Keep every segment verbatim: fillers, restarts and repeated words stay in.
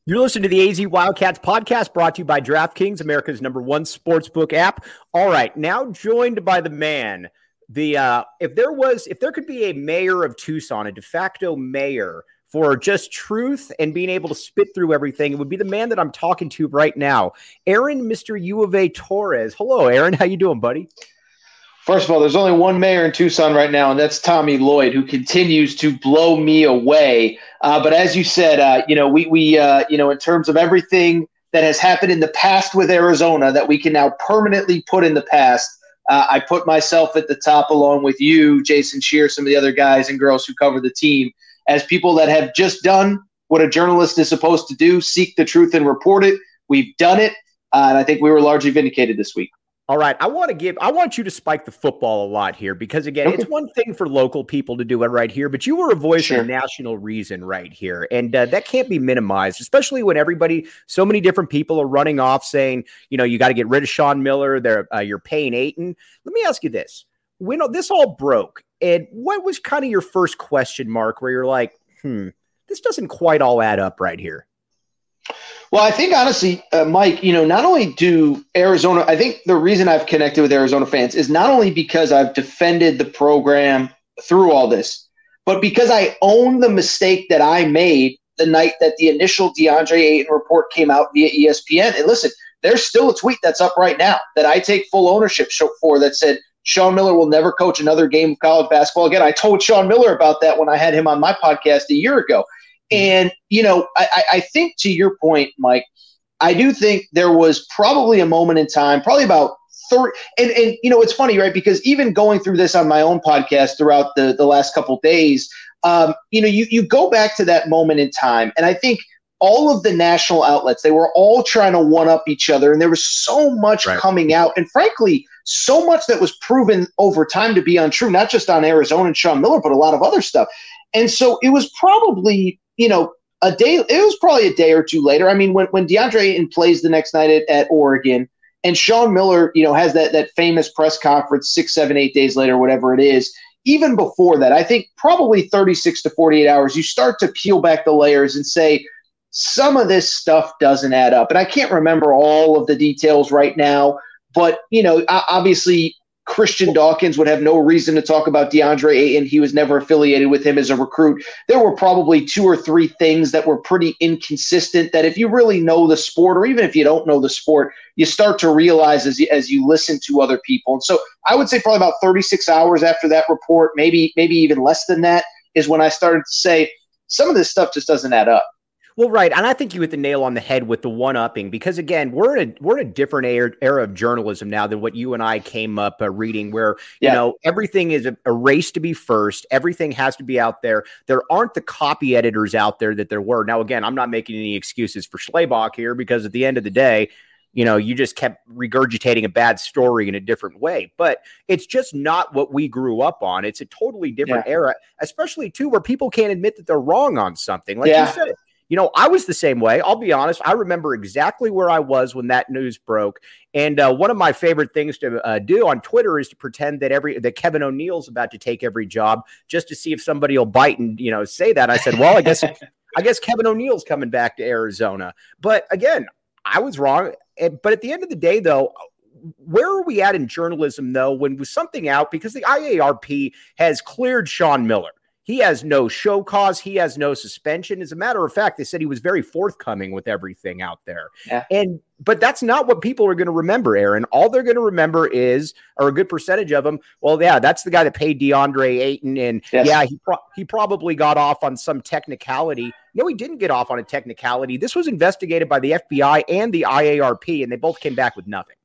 You're listening to the A Z Wildcats podcast brought to you by DraftKings, America's number one sportsbook app. All right, now joined by the man. The uh, if there was, if there could be a mayor of Tucson, a de facto mayor for just truth and being able to spit through everything, it would be the man that I'm talking to right now, Aaron, Mister U of A Torres. Hello, Aaron. How you doing, buddy? First of all, there's only one mayor in Tucson right now, and that's Tommy Lloyd, who continues to blow me away. Uh, but as you said, uh, you know, we, we uh, you know, in terms of everything that has happened in the past with Arizona that we can now permanently put in the past, uh, I put myself at the top along with you, Jason Shear, some of the other guys and girls who cover the team, as people that have just done what a journalist is supposed to do, seek the truth and report it. We've done it, uh, and I think we were largely vindicated this week. All right, I want to give, I want you to spike the football a lot here because, again, Okay. It's one thing for local people to do it right here, but you were a voice Sure. of national reason right here, and uh, that can't be minimized, especially when everybody, so many different people are running off saying, you know, you got to get rid of Sean Miller, they're, uh, you're paying Ayton. Let me ask you this. When this all broke, and what was kind of your first question mark where you're like, hmm, this doesn't quite all add up right here? Well, I think honestly, uh, Mike, you know, not only do Arizona, I think the reason I've connected with Arizona fans is not only because I've defended the program through all this, but because I own the mistake that I made the night that the initial DeAndre Ayton report came out via E S P N. And listen, there's still a tweet that's up right now that I take full ownership for that said Sean Miller will never coach another game of college basketball again. I told Sean Miller about that when I had him on my podcast a year ago. And, you know, I, I think to your point, Mike, I do think there was probably a moment in time, probably about thirty. And, and you know, it's funny, right? Because even going through this on my own podcast throughout the, the last couple of days, um, you know, you, you go back to that moment in time. And I think all of the national outlets, they were all trying to one up each other. And there was so much Right. coming out. And frankly, so much that was proven over time to be untrue, not just on Arizona and Sean Miller, but a lot of other stuff. And so it was probably, you know, a day, it was probably a day or two later. I mean, when, when DeAndre Ayton plays the next night at, at Oregon and Sean Miller, you know, has that, that famous press conference six, seven, eight days later, whatever it is, even before that, I think probably thirty-six to forty-eight hours, you start to peel back the layers and say, some of this stuff doesn't add up. And I can't remember all of the details right now, but, you know, obviously Christian Dawkins would have no reason to talk about DeAndre Ayton. He was never affiliated with him as a recruit. There were probably two or three things that were pretty inconsistent that if you really know the sport, or even if you don't know the sport, you start to realize as you, as you listen to other people. And so I would say probably about thirty-six hours after that report, maybe, maybe even less than that, is when I started to say some of this stuff just doesn't add up. Well, right, and I think you hit the nail on the head with the one-upping because, again, we're in a we're in a different era, era of journalism now than what you and I came up uh, reading, where you Yeah. know everything is a, a race to be first. Everything has to be out there. There aren't the copy editors out there that there were. Now, again, I'm not making any excuses for Schlabach here because at the end of the day, you know, you just kept regurgitating a bad story in a different way. But it's just not what we grew up on. It's a totally different Yeah. era, especially too where people can't admit that they're wrong on something. Like Yeah. you said. You know, I was the same way. I'll be honest. I remember exactly where I was when that news broke. And uh, one of my favorite things to uh, do on Twitter is to pretend that every that Kevin O'Neal's about to take every job just to see if somebody will bite and, you know, say that. I said, well, I guess I guess Kevin O'Neal's coming back to Arizona. But again, I was wrong. But at the end of the day, though, where are we at in journalism, though, when with something out? Because the I A R P has cleared Sean Miller. He has no show cause. He has no suspension. As a matter of fact, they said he was very forthcoming with everything out there. Yeah. And but that's not what people are going to remember, Aaron. All they're going to remember is, or a good percentage of them, well, yeah, that's the guy that paid DeAndre Ayton. And Yes. yeah, he, pro- he probably got off on some technicality. No, he didn't get off on a technicality. This was investigated by the F B I and the I A R P, and they both came back with nothing.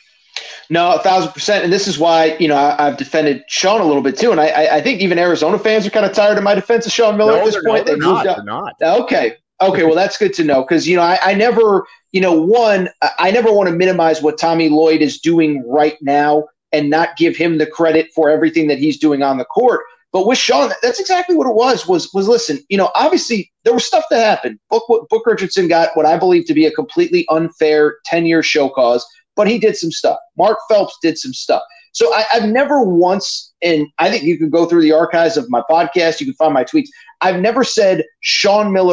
No, a thousand percent. And this is why, you know, I, I've defended Sean a little bit too. And I, I think even Arizona fans are kind of tired of my defense of Sean Miller No, at this they're point. not, They they're moved not, up. they're not. Okay. Okay. Well, that's good to know. Cause, you know, I, I never, you know, one, I- I never want to minimize what Tommy Lloyd is doing right now and not give him the credit for everything that he's doing on the court. But with Sean, that's exactly what it was, was, was listen, you know, obviously there was stuff that happened. Book, Book Richardson got what I believe to be a completely unfair ten-year show cause, but he did some stuff. Mark Phelps did some stuff. So I, I've never once, and I think you can go through the archives of my podcast, you can find my tweets, I've never said Sean Miller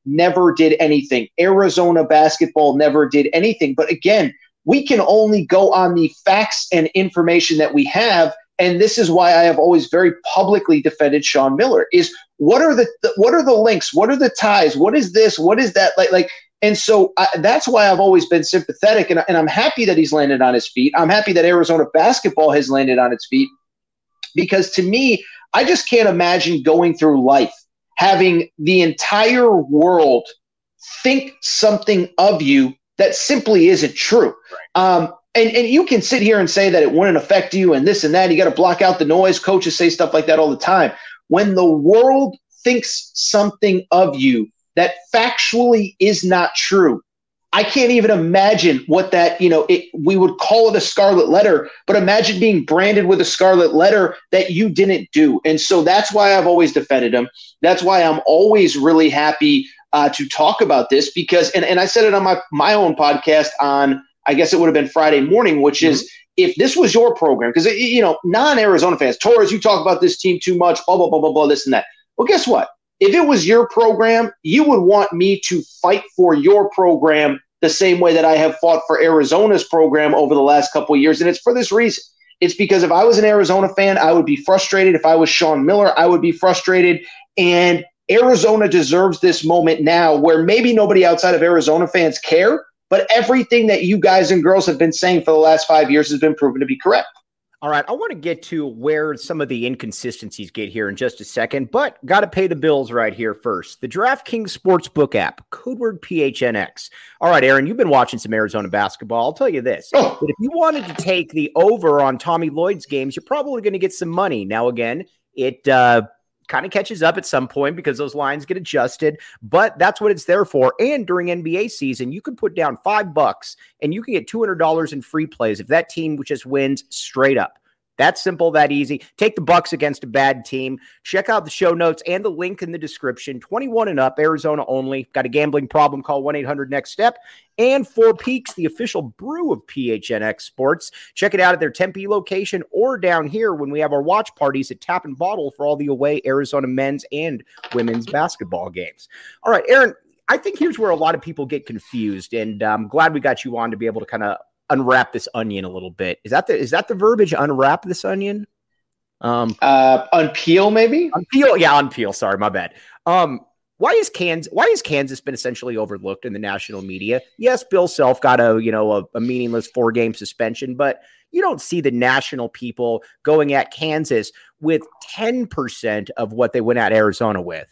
never did anything. Arizona basketball never did anything. But again, we can only go on the facts and information that we have. And this is why I have always very publicly defended Sean Miller is what are the, what are the links? What are the ties? What is this? What is that? Like, like, and so I, that's why I've always been sympathetic. And, and I'm happy that he's landed on his feet. I'm happy that Arizona basketball has landed on its feet, because to me, I just can't imagine going through life having the entire world think something of you that simply isn't true. Um, and, and you can sit here and say that it wouldn't affect you and this and that. You got to block out the noise. Coaches say stuff like that all the time. When the world thinks something of you that factually is not true, I can't even imagine what that, you know, it, we would call it a scarlet letter, but imagine being branded with a scarlet letter that you didn't do. And so that's why I've always defended him. That's why I'm always really happy uh, to talk about this because, and, and I said it on my, my own podcast on, I guess it would have been Friday morning, which mm-hmm. is if this was your program, because, you know, non-Arizona fans, Torres, you talk about this team too much, blah, blah, blah, blah, blah, this and that. Well, guess what? If it was your program, you would want me to fight for your program the same way that I have fought for Arizona's program over the last couple of years. And it's for this reason. It's because if I was an Arizona fan, I would be frustrated. If I was Sean Miller, I would be frustrated. And Arizona deserves this moment now where maybe nobody outside of Arizona fans care, but everything that you guys and girls have been saying for the last five years has been proven to be correct. All right, I want to get to where some of the inconsistencies get here in just a second, but got to pay the bills right here first. The DraftKings Sportsbook app, code word P H N X. All right, Aaron, you've been watching some Arizona basketball. I'll tell you this. Oh. But if you wanted to take the over on Tommy Lloyd's games, you're probably going to get some money. Now, again, it uh, kind of catches up at some point because those lines get adjusted, but that's what it's there for. And during N B A season, you can put down five bucks and you can get two hundred dollars in free plays if that team just wins straight up. That simple, that easy. Take the Bucks against a bad team. Check out the show notes and the link in the description. twenty-one and up, Arizona only. Got a gambling problem? Call one eight hundred next step. And Four Peaks, the official brew of P H N X Sports. Check it out at their Tempe location or down here when we have our watch parties at Tap and Bottle for all the away Arizona men's and women's basketball games. All right, Aaron, I think here's where a lot of people get confused, and I'm glad we got you on to be able to kind of unwrap this onion a little bit. Is that the is that the verbiage? Unwrap this onion? Um, uh, unpeel maybe. Unpeel, yeah, unpeel. Sorry, my bad. Um, why is Kansas? Why has Kansas been essentially overlooked in the national media? Yes, Bill Self got a you know a, a meaningless four game suspension, but you don't see the national people going at Kansas with ten percent of what they went at Arizona with.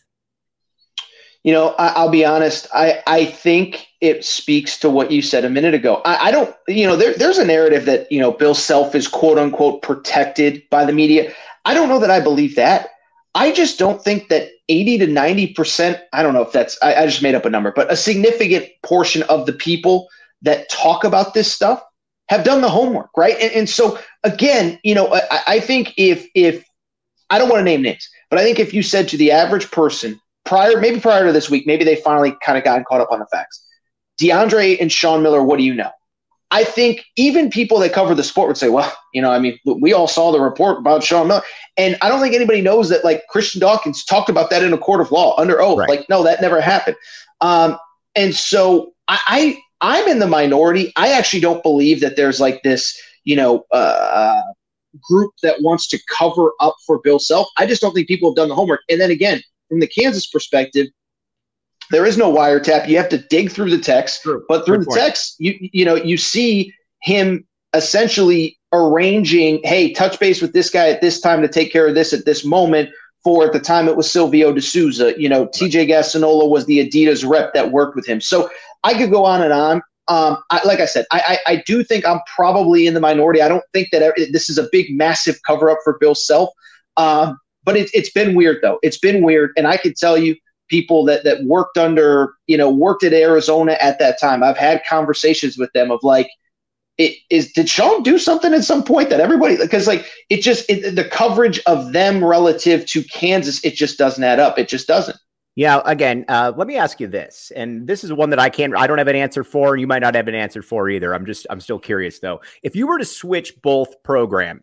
You know, I, I'll be honest. I, I think it speaks to what you said a minute ago. I, I don't, you know, there, there's a narrative that, you know, Bill Self is quote unquote protected by the media. I don't know that I believe that. I just don't think that eighty to ninety percent, I don't know if that's, I, I just made up a number, but a significant portion of the people that talk about this stuff have done the homework, right? And, and so, again, you know, I, I think if, if, I don't want to name names, but I think if you said to the average person, Prior, maybe prior to this week, maybe they finally kind of gotten caught up on the facts. DeAndre and Sean Miller, what do you know? I think even people that cover the sport would say, well, you know, I mean, we all saw the report about Sean Miller. And I don't think anybody knows that, like, Christian Dawkins talked about that in a court of law under oath. Right. Like, no, that never happened. Um, and so I, I, I'm in the minority. I actually don't believe that there's, like, this, you know, uh, group that wants to cover up for Bill Self. I just don't think people have done the homework. And then, again, from the Kansas perspective, there is no wiretap. You have to dig through the text, True. but through Good the point. text, you you know, you see him essentially arranging, hey, touch base with this guy at this time to take care of this at this moment. For at the time, it was Silvio De Souza. You know, T J Gassinola was the Adidas rep that worked with him. So I could go on and on. Um, I, like I said, I, I I do think I'm probably in the minority. I don't think that every, this is a big, massive cover up for Bill Self. Um, But it, it's been weird, though. It's been weird. And I could tell you people that, that worked under, you know, worked at Arizona at that time. I've had conversations with them of like, it is, did Sean do something at some point that everybody, because like, it just, it, the coverage of them relative to Kansas, it just doesn't add up. It just doesn't. Yeah. Again, uh, let me ask you this, and this is one that I can't, I don't have an answer for. You might not have an answer for either. I'm just, I'm still curious though. If you were to switch both programs,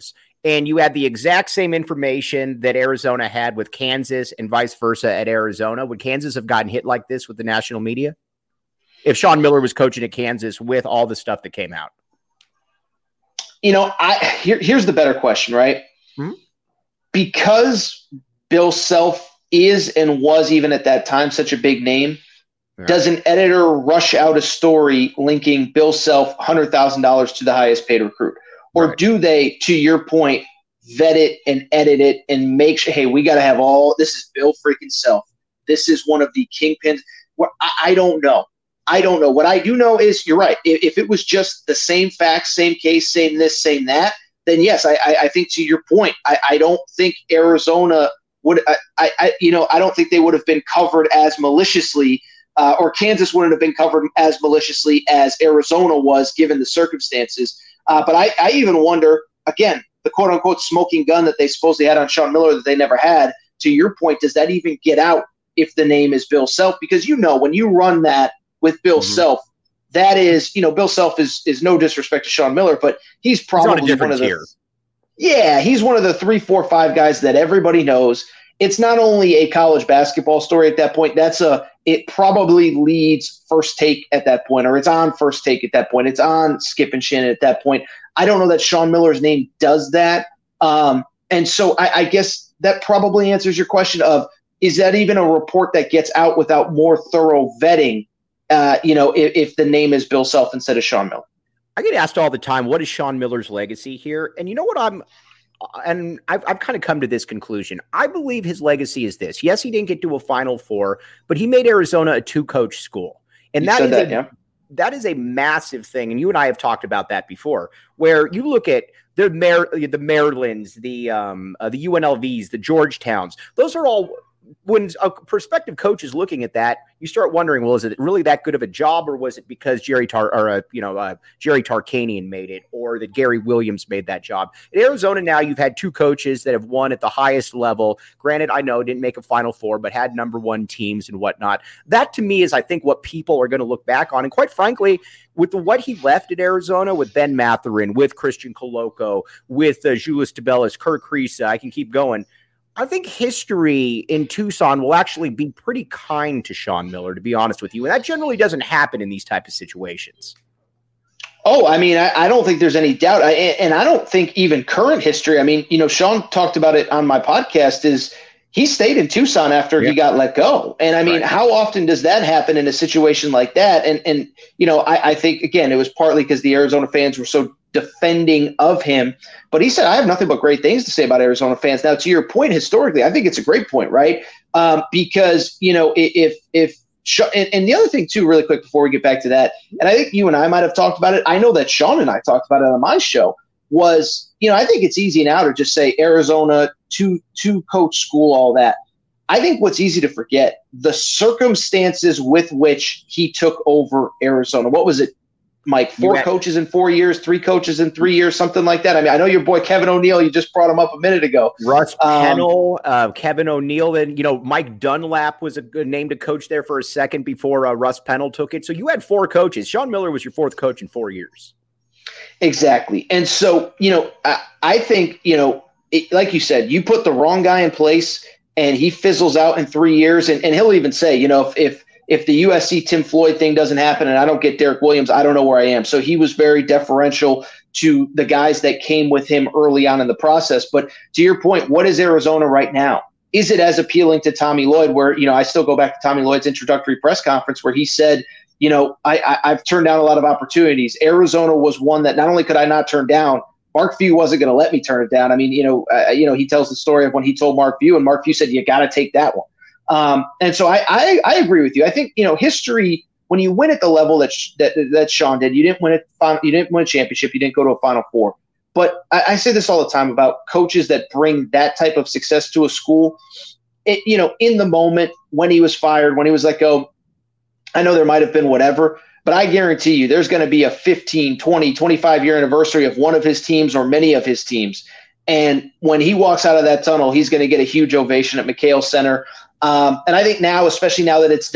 and you had the exact same information that Arizona had with Kansas and vice versa at Arizona, would Kansas have gotten hit like this with the national media if Sean Miller was coaching at Kansas with all the stuff that came out? You know, I here, here's the better question, right? Hmm? Because Bill Self is and was even at that time such a big name, yeah. Does an editor rush out a story linking Bill Self one hundred thousand dollars to the highest paid recruit? Or right. do they, to your point, vet it and edit it and make sure, hey, we got to have all – this is Bill freaking Self. This is one of the kingpins. Well, I, I don't know. I don't know. What I do know is you're right. If, if it was just the same facts, same case, same this, same that, then yes, I, I, I think to your point, I, I don't think Arizona would I, – I, I, you know, I don't think they would have been covered as maliciously uh, or Kansas wouldn't have been covered as maliciously as Arizona was given the circumstances. Uh, but I, I even wonder, again, the quote-unquote smoking gun that they supposedly had on Sean Miller that they never had, to your point, does that even get out if the name is Bill Self? Because, you know, when you run that with Bill mm-hmm. Self, that is, you know, Bill Self is is no disrespect to Sean Miller, but he's probably he's one of the tier. Yeah, he's one of the three, four, five guys that everybody knows. It's not only a college basketball story at that point. That's a it probably leads First Take at that point, or it's on First Take at that point. It's on Skip and Shannon at that point. I don't know that Sean Miller's name does that. Um, and so I, I guess that probably answers your question of, is that even a report that gets out without more thorough vetting, uh, you know, if, if the name is Bill Self instead of Sean Miller? I get asked all the time, what is Sean Miller's legacy here? And you know what I'm and I've, I've kind of come to this conclusion. I believe his legacy is this. Yes, he didn't get to a Final Four, but he made Arizona a two-coach school. And that is, that, a, yeah. that is a massive thing. And you and I have talked about that before, where you look at the Mar- the Marylands, the, um, uh, the U N L Vs, the Georgetowns. Those are all – when a prospective coach is looking at that, you start wondering, well, is it really that good of a job, or was it because Jerry Tar or uh, you know uh, Jerry Tarkanian made it, or that Gary Williams made that job? In Arizona now, you've had two coaches that have won at the highest level. Granted, I know didn't make a Final Four, but had number one teams and whatnot. That to me is, I think, what people are going to look back on. And quite frankly, with the, what he left at Arizona with Ben Mathurin, with Christian Coloco, with uh, Julius Tabelis, Kirk Kriisa, I can keep going. I think history in Tucson will actually be pretty kind to Sean Miller, to be honest with you. And that generally doesn't happen in these type of situations. Oh, I mean, I, I don't think there's any doubt. I, and I don't think even current history, I mean, you know, Sean talked about it on my podcast, is he stayed in Tucson after yeah. he got let go. And I mean, right. how often does that happen in a situation like that? And, and you know, I, I think, again, it was partly because the Arizona fans were so defending of him, but he said, I have nothing but great things to say about Arizona fans. Now, to your point, historically, I think it's a great point, right? Um, because, you know, if, if, and, and the other thing too, really quick before we get back to that, and I think you and I might have talked about it. I know that Sean and I talked about it on my show, was, you know, I think it's easy now to just say Arizona, two, two coach school, all that. I think what's easy to forget, the circumstances with which he took over Arizona. What was it, Mike? Four had, coaches in four years, three coaches in three years, something like that. I mean, I know your boy Kevin O'Neill, you just brought him up a minute ago. Russ Pennell, um, uh, Kevin O'Neill, and, you know, Mike Dunlap was a good name to coach there for a second before uh, Russ Pennell took it. So you had four coaches. Sean Miller was your fourth coach in four years. Exactly. And so, you know, I, I think, you know, it, like you said, you put the wrong guy in place and he fizzles out in three years. And, and he'll even say, you know, if, if, If the U S C Tim Floyd thing doesn't happen and I don't get Derek Williams, I don't know where I am. So he was very deferential to the guys that came with him early on in the process. But to your point, what is Arizona right now? Is it as appealing to Tommy Lloyd, where, you know, I still go back to Tommy Lloyd's introductory press conference where he said, you know, I, I, I've turned down a lot of opportunities. Arizona was one that not only could I not turn down, Mark Few wasn't going to let me turn it down. I mean, you know, uh, you know, he tells the story of when he told Mark Few, and Mark Few said, you got to take that one. Um, and so I, I, I agree with you. I think, you know, history, when you win at the level that, that, that Sean did, you didn't win it. You didn't win a championship. You didn't go to a Final Four. But I, I say this all the time about coaches that bring that type of success to a school. It, you know, in the moment when he was fired, when he was let go, I know there might have been whatever, but I guarantee you there's going to be a fifteen, twenty, twenty-five year anniversary of one of his teams or many of his teams. And when he walks out of that tunnel, he's going to get a huge ovation at McKale Center. Um, and I think now, especially now that it's done,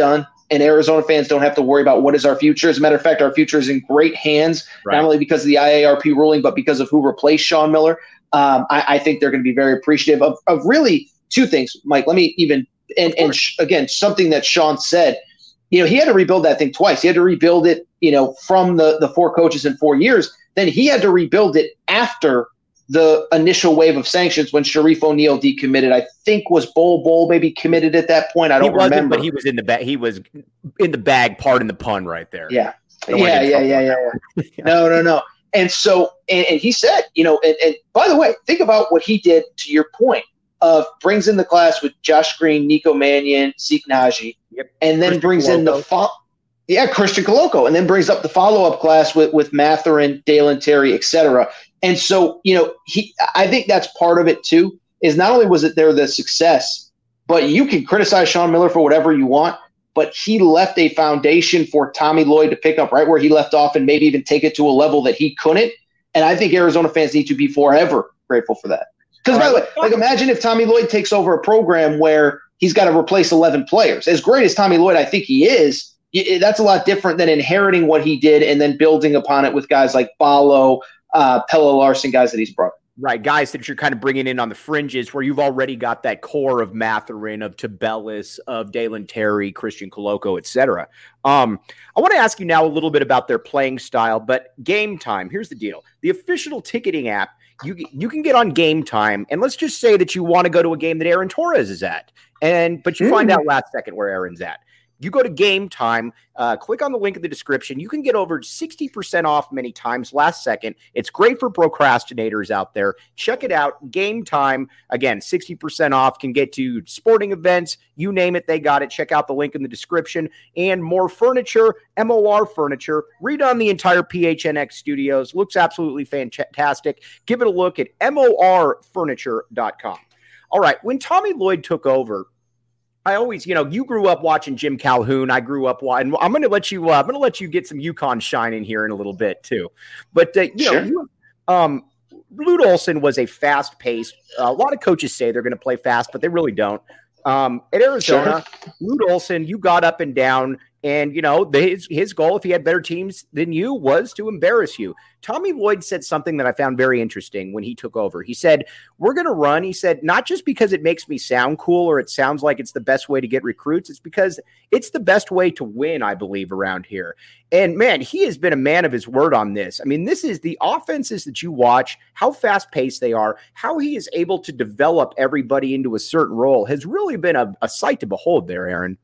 and Arizona fans don't have to worry about what is our future. As a matter of fact, our future is in great hands, right. Not only because of the I A R P ruling, but because of who replaced Sean Miller. Um, I, I think they're going to be very appreciative of, of really two things, Mike. Let me even and, and sh- again, something that Sean said, you know, he had to rebuild that thing twice. He had to rebuild it, you know, from the, the four coaches in four years. Then he had to rebuild it after the initial wave of sanctions when Sharif O'Neal decommitted. I think was Bol Bol maybe committed at that point. I don't he wasn't, remember. But he was in the bag. He was in the bag, pardon the pun right there. Yeah. Yeah, yeah, yeah, yeah, yeah. No, no, no. And so, and, and he said, you know, and, and by the way, think about what he did to your point of brings in the class with Josh Green, Nico Mannion, Zeke Naji, yep. and then Christian brings Coloco. in the fo- yeah, Christian Coloco, and then brings up the follow-up class with, with Mathurin, Dalen Terry, et cetera. And so, you know, he, I think that's part of it too, is not only was it there the success, but you can criticize Sean Miller for whatever you want, but he left a foundation for Tommy Lloyd to pick up right where he left off and maybe even take it to a level that he couldn't. And I think Arizona fans need to be forever grateful for that. Because, by the way, like imagine if Tommy Lloyd takes over a program where he's got to replace eleven players. As great as Tommy Lloyd I think he is, that's a lot different than inheriting what he did and then building upon it with guys like Ballo, uh, Pelle Larsson, guys that he's brought. Right, guys that you're kind of bringing in on the fringes where you've already got that core of Mathurin, of Tabellis, of Dalen Terry, Christian Coloco, et cetera. Um, I want to ask you now a little bit about their playing style, but Game Time, here's the deal. The official ticketing app, you, you can get on Game Time, and let's just say that you want to go to a game that Aaron Torres is at, and but you mm. find out last second where Aaron's at. You go to Game Time, uh, click on the link in the description. You can get over sixty percent off many times last second. It's great for procrastinators out there. Check it out. Game Time, again, sixty percent off, can get to sporting events. You name it, they got it. Check out the link in the description. And more furniture, M O R Furniture. Redone the entire P H N X studios. Looks absolutely fantastic. Give it a look at M O R furniture dot com. All right, when Tommy Lloyd took over, I always, you know, you grew up watching Jim Calhoun. I grew up watching. I'm going to let you. Uh, I'm going to let you get some UConn shine in here in a little bit too. But uh, you sure. know, you, um, Lute Olson was a fast-paced. Uh, a lot of coaches say they're going to play fast, but they really don't. Um, at Arizona, sure. Lute Olson, you got up and down, and you know the, his his goal, if he had better teams than you, was to embarrass you. Tommy Lloyd said something that I found very interesting when he took over. He said, we're going to run. He said, not just because it makes me sound cool or it sounds like it's the best way to get recruits. It's because it's the best way to win, I believe, around here. And, man, he has been a man of his word on this. I mean, this is the offenses that you watch, how fast-paced they are, how he is able to develop everybody into a certain role has really been a, a sight to behold there, Aaron.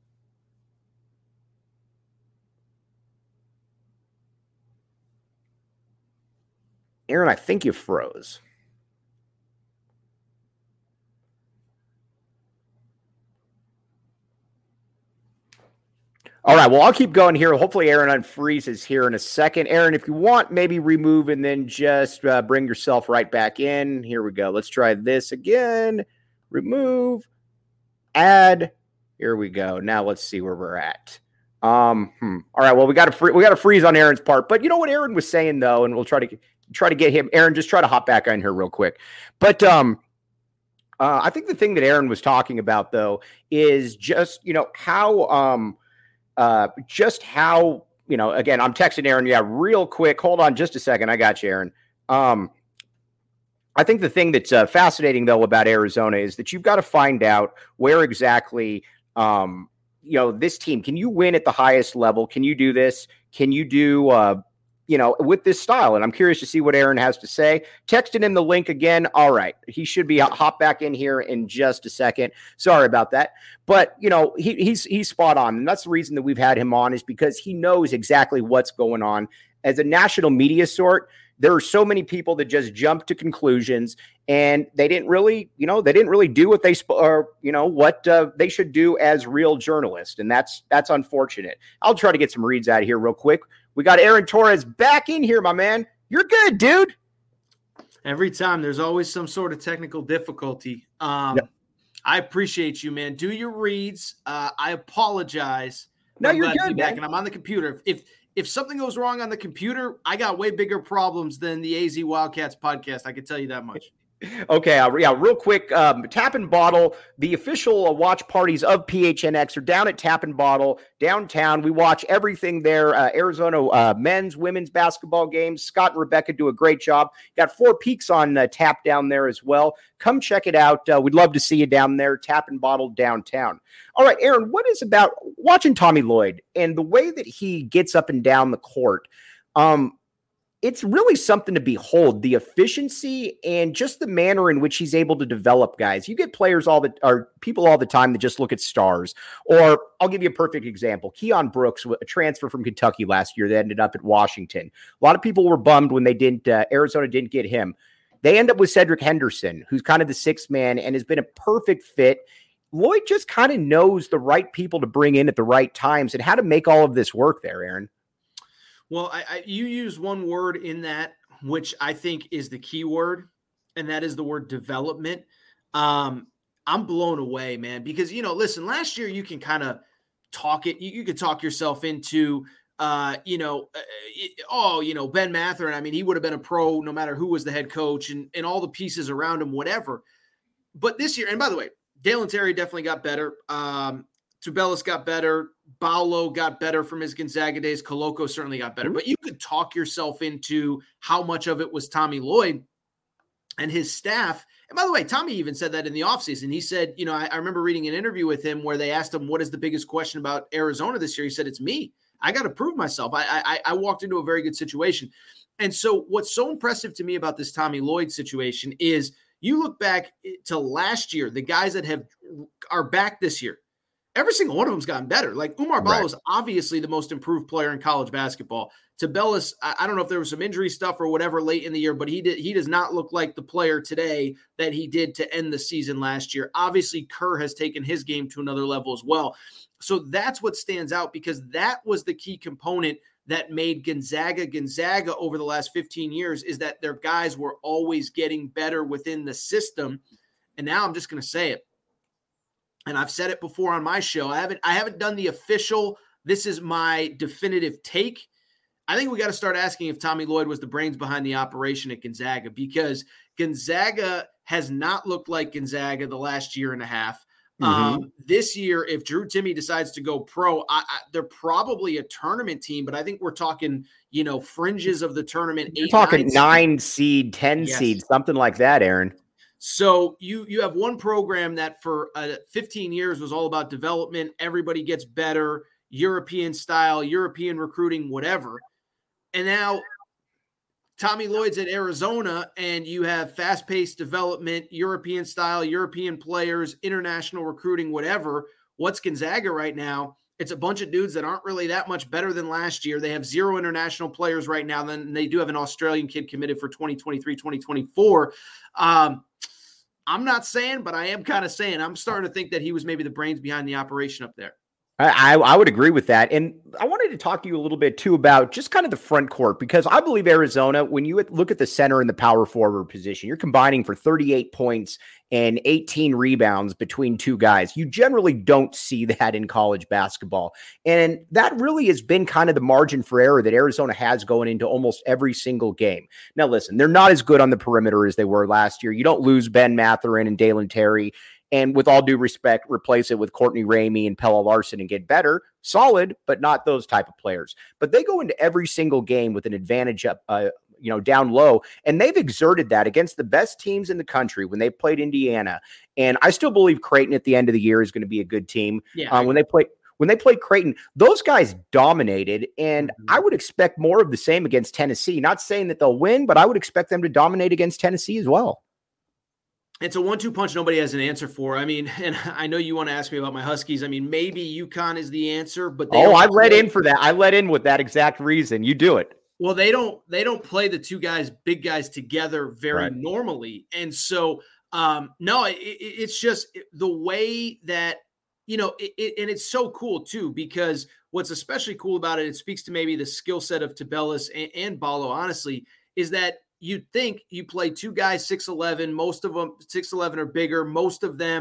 Aaron, I think you froze. All right, well, I'll keep going here. Hopefully Aaron unfreezes here in a second. Aaron, if you want, maybe remove and then just uh, bring yourself right back in. Here we go. Let's try this again. Remove, add. Here we go. Now let's see where we're at. Um, hmm. All right, well, we got to free- we got to freeze on Aaron's part. But you know what Aaron was saying, though, and we'll try to – try to get him. Aaron, just try to hop back on here real quick. But um, uh, I think the thing that Aaron was talking about, though, is just, you know, how, um, uh, just how, you know, again, I'm texting Aaron. Yeah, real quick. Hold on just a second. I got you, Aaron. Um, I think the thing that's uh, fascinating, though, about Arizona is that you've got to find out where exactly, um, you know, this team, can you win at the highest level? Can you do this? Can you do, uh, you know, with this style? And I'm curious to see what Aaron has to say. Texting him the link again. All right. He should be hop back in here in just a second. Sorry about that. But, you know, he, he's, he's spot on. And that's the reason that we've had him on, is because he knows exactly what's going on. As a national media sort, there are so many people that just jump to conclusions, and they didn't really, you know, they didn't really do what they, sp- or, you know, what uh, they should do as real journalists. And that's, that's unfortunate. I'll try to get some reads out of here real quick. We got Aaron Torres back in here, my man. You're good, dude. Every time there's always some sort of technical difficulty. Um, yep. I appreciate you, man. Do your reads. Uh, I apologize. No, I'm you're glad good, to be back, man. and I'm on the computer. If if something goes wrong on the computer, I got way bigger problems than the A Z Wildcats podcast. I can tell you that much. Okay, uh, yeah, real quick. Um, Tap and Bottle, the official uh, watch parties of P H N X are down at Tap and Bottle downtown. We watch everything there. Uh, Arizona uh, men's, women's basketball games. Scott and Rebecca do a great job. Got Four Peaks on uh, tap down there as well. Come check it out. Uh, we'd love to see you down there. Tap and Bottle downtown. All right, Aaron, what is about watching Tommy Lloyd and the way that he gets up and down the court? Um, It's really something to behold, the efficiency and just the manner in which he's able to develop guys. You get players all the or people all the time that just look at stars. Or I'll give you a perfect example. Keon Brooks, a transfer from Kentucky last year that ended up at Washington. A lot of people were bummed when they didn't uh, Arizona didn't get him. They end up with Cedric Henderson, who's kind of the sixth man and has been a perfect fit. Lloyd just kind of knows the right people to bring in at the right times and how to make all of this work there, Aaron. Well, I, I, you use one word in that, which I think is the key word, and that is the word development. Um, I'm blown away, man, because, you know, listen, last year you can kind of talk it. You, you could talk yourself into, uh, you know, uh, oh, you know, Ben Mathurin. I mean, he would have been a pro no matter who was the head coach and, and all the pieces around him, whatever. But this year, and by the way, Dalen Terry definitely got better. Um, Tubelis got better. Baulo got better from his Gonzaga days. Koloko certainly got better. But you could talk yourself into how much of it was Tommy Lloyd and his staff. And by the way, Tommy even said that in the offseason. He said, you know, I, I remember reading an interview with him where they asked him, what is the biggest question about Arizona this year? He said, it's me. I got to prove myself. I, I, I walked into a very good situation. And so what's so impressive to me about this Tommy Lloyd situation is you look back to last year, the guys that have are back this year, every single one of them's gotten better. Like Umar Balo right. is obviously the most improved player in college basketball. Tubelis, I, I don't know if there was some injury stuff or whatever late in the year, but he did. He does not look like the player today that he did to end the season last year. Obviously, Kerr has taken his game to another level as well. So that's what stands out because that was the key component that made Gonzaga Gonzaga over the last fifteen years is that their guys were always getting better within the system. And now I'm just going to say it. And I've said it before on my show. I haven't I haven't done the official, this is my definitive take. I think we got to start asking if Tommy Lloyd was the brains behind the operation at Gonzaga because Gonzaga has not looked like Gonzaga the last year and a half. Mm-hmm. Um, this year, if Drew Timme decides to go pro, I, I, they're probably a tournament team, but I think we're talking, you know, fringes of the tournament. You're eight, talking nine, nine seed, ten yes. seed, something like that, Aaron. So you you have one program that for uh, fifteen years was all about development. Everybody gets better, European style, European recruiting, whatever. And now Tommy Lloyd's at Arizona, and you have fast-paced development, European style, European players, international recruiting, whatever. What's Gonzaga right now? It's a bunch of dudes that aren't really that much better than last year. They have zero international players right now. Then they do have an Australian kid committed for twenty twenty-three, twenty twenty-four. Um, I'm not saying, but I am kind of saying I'm starting to think that he was maybe the brains behind the operation up there. I, I would agree with that. And I wanted to talk to you a little bit, too, about just kind of the front court, because I believe Arizona, when you look at the center and the power forward position, you're combining for thirty-eight points and eighteen rebounds between two guys. You generally don't see that in college basketball. And that really has been kind of the margin for error that Arizona has going into almost every single game. Now, listen, they're not as good on the perimeter as they were last year. You don't lose Ben Mathurin and Dalen Terry. And with all due respect, replace it with Courtney Ramey and Pella Larson and get better. Solid, but not those type of players. But they go into every single game with an advantage up, uh, you know, down low. And they've exerted that against the best teams in the country when they played Indiana. And I still believe Creighton at the end of the year is going to be a good team. Yeah, um, when they play when they played Creighton, those guys dominated. And mm-hmm. I would expect more of the same against Tennessee. Not saying that they'll win, but I would expect them to dominate against Tennessee as well. It's a one two punch nobody has an answer for. I mean, and I know you want to ask me about my Huskies. I mean, maybe UConn is the answer, but they oh, I let play. in for that. I let in with that exact reason. You do it. Well, they don't they don't play the two guys, big guys together very right. normally. And so, um, no, it, it, it's just the way that, you know, it, it, and it's so cool, too, because what's especially cool about it, it speaks to maybe the skill set of Tubelis and, and Balo, honestly, is that you'd think you play two guys six eleven, most of them six eleven or bigger, most of them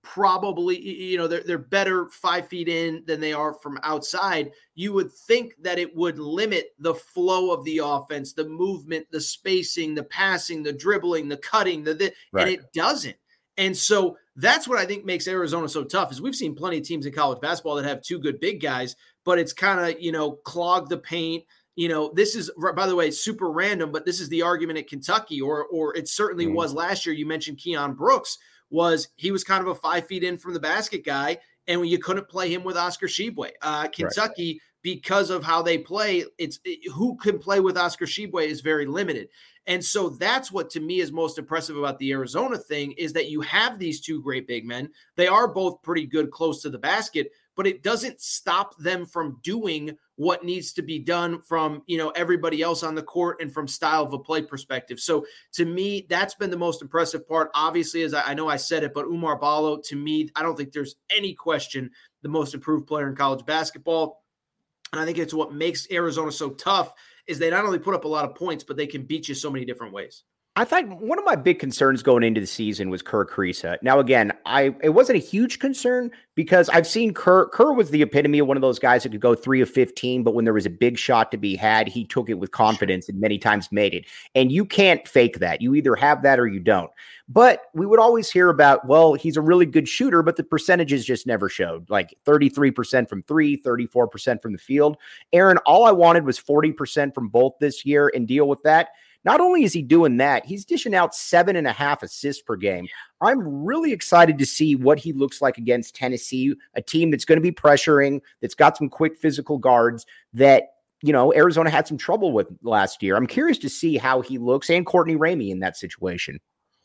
probably, you know, they're, they're better five feet in than they are from outside, you would think that it would limit the flow of the offense, the movement, the spacing, the passing, the dribbling, the cutting, the, the right. and it doesn't. And so that's what I think makes Arizona so tough is we've seen plenty of teams in college basketball that have two good big guys, but it's kind of, you know, clog the paint. You know, this is, by the way, super random, but this is the argument at Kentucky, or or it certainly mm. was last year. You mentioned Keon Brooks, was he was kind of a five feet in from the basket guy, and when you couldn't play him with Oscar Tshiebwe. Uh, Kentucky, right. because of how they play, it's it, who can play with Oscar Tshiebwe is very limited. And so that's what to me is most impressive about the Arizona thing is that you have these two great big men. They are both pretty good close to the basket, but it doesn't stop them from doing what needs to be done from, you know, everybody else on the court and from style of a play perspective. So to me, that's been the most impressive part. Obviously, as I, I know I said it, but Oumar Ballo, to me, I don't think there's any question the most improved player in college basketball. And I think it's what makes Arizona so tough is they not only put up a lot of points, but they can beat you so many different ways. I thought one of my big concerns going into the season was Kerr Kriisa. Now, again, I it wasn't a huge concern because I've seen Kerr. Kerr was the epitome of one of those guys that could go three of fifteen, but when there was a big shot to be had, he took it with confidence and many times made it. And you can't fake that. You either have that or you don't. But we would always hear about, well, he's a really good shooter, but the percentages just never showed. Like thirty-three percent from three, thirty-four percent from the field. Aaron, all I wanted was forty percent from both this year and deal with that. Not only is he doing that, he's dishing out seven and a half assists per game. I'm really excited to see what he looks like against Tennessee, a team that's going to be pressuring, that's got some quick physical guards that, you know, Arizona had some trouble with last year. I'm curious to see how he looks, and Courtney Ramey in that situation.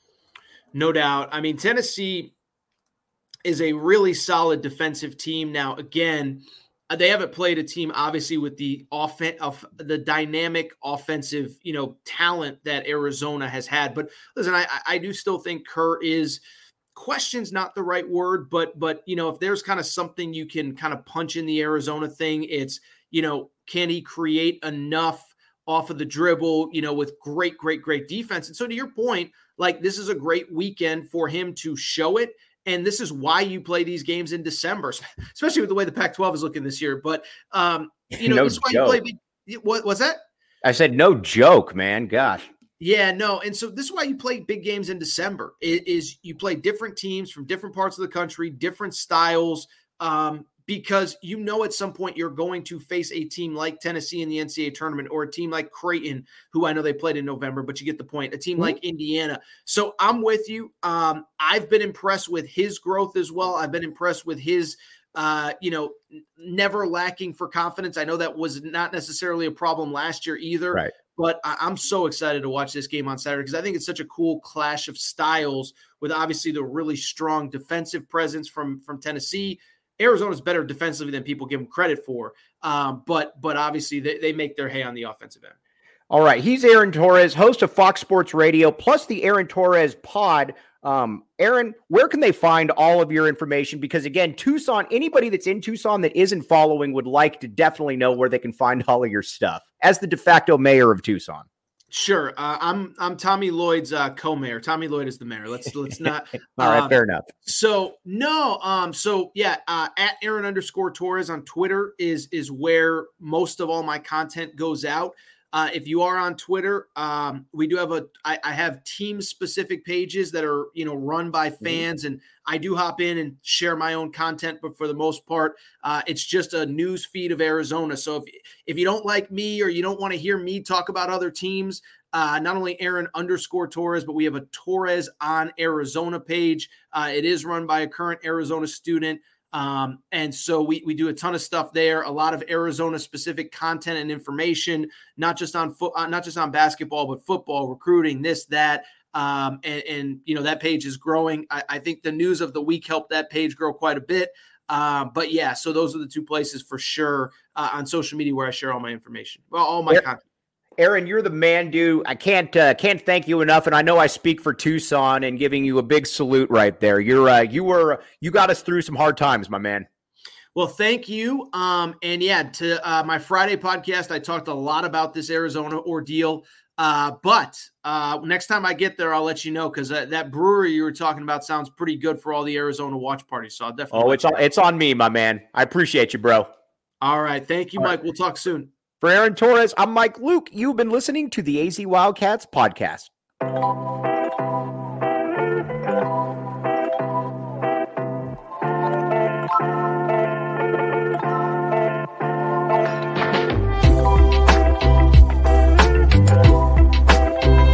No doubt. I mean, Tennessee is a really solid defensive team. Now, again, they haven't played a team, obviously, with the offen- of the dynamic offensive, you know, talent that Arizona has had. But listen, I, I do still think Kerr is question's not the right word, but but you know, if there's kind of something you can kind of punch in the Arizona thing, it's, you know, can he create enough off of the dribble, you know, with great, great, great defense? And so to your point, like this is a great weekend for him to show it. And this is why you play these games in December, especially with the way the Pac twelve is looking this year. But, um, you know, no this is why joke. you play big. What was that? I said, no joke, man. Gosh. Yeah, no. And so this is why you play big games in December is, is you play different teams from different parts of the country, different styles, um, because you know at some point you're going to face a team like Tennessee in the N C double A tournament, or a team like Creighton, who I know they played in November, but you get the point, a team mm-hmm. like Indiana. So I'm with you. Um, I've been impressed with his growth as well. I've been impressed with his, uh, you know, never lacking for confidence. I know that was not necessarily a problem last year either, right. But I- I'm so excited to watch this game on Saturday because I think it's such a cool clash of styles with obviously the really strong defensive presence from, from Tennessee. Arizona's better defensively than people give them credit for, um, but but obviously they, they make their hay on the offensive end. All right, he's Aaron Torres, host of Fox Sports Radio, plus the Aaron Torres pod. Um, Aaron, where can they find all of your information? Because again, Tucson, anybody that's in Tucson that isn't following would like to definitely know where they can find all of your stuff. As the de facto mayor of Tucson. Sure. Uh, I'm I'm Tommy Lloyd's uh, co-mayor. Tommy Lloyd is the mayor. Let's let's not. All right, um, fair enough. So no. Um. So yeah. Uh, at Aaron underscore Torres on Twitter is is where most of all my content goes out. Uh, if you are on Twitter, um, we do have a, I, I have team specific pages that are, you know, run by fans, mm-hmm. and I do hop in and share my own content, but for the most part, uh, it's just a news feed of Arizona. So if, if you don't like me or you don't want to hear me talk about other teams, uh, not only Aaron underscore Torres, but we have a Torres on Arizona page. Uh, it is run by a current Arizona student. Um, and so we, we do a ton of stuff there, a lot of Arizona specific content and information, not just on foot, uh, not just on basketball, but football, recruiting, this, that. Um, and, and, you know, that page is growing. I, I think the news of the week helped that page grow quite a bit. Uh, but yeah, so those are the two places for sure uh, on social media where I share all my information. Well, all my yeah. content. Aaron, you're the man, dude. I can't uh, can't thank you enough, and I know I speak for Tucson and giving you a big salute right there. You're uh, you were you got us through some hard times, my man. Well, thank you. Um, and yeah, to uh, my Friday podcast, I talked a lot about this Arizona ordeal. Uh, but uh, next time I get there, I'll let you know because uh, that brewery you were talking about sounds pretty good for all the Arizona watch parties. So I'll definitely. Oh, it's on, it's on me, my man. I appreciate you, bro. All right. Thank you, all Mike. Right. We'll talk soon. For Aaron Torres, I'm Mike Luke. You've been listening to the A Z Wildcats podcast.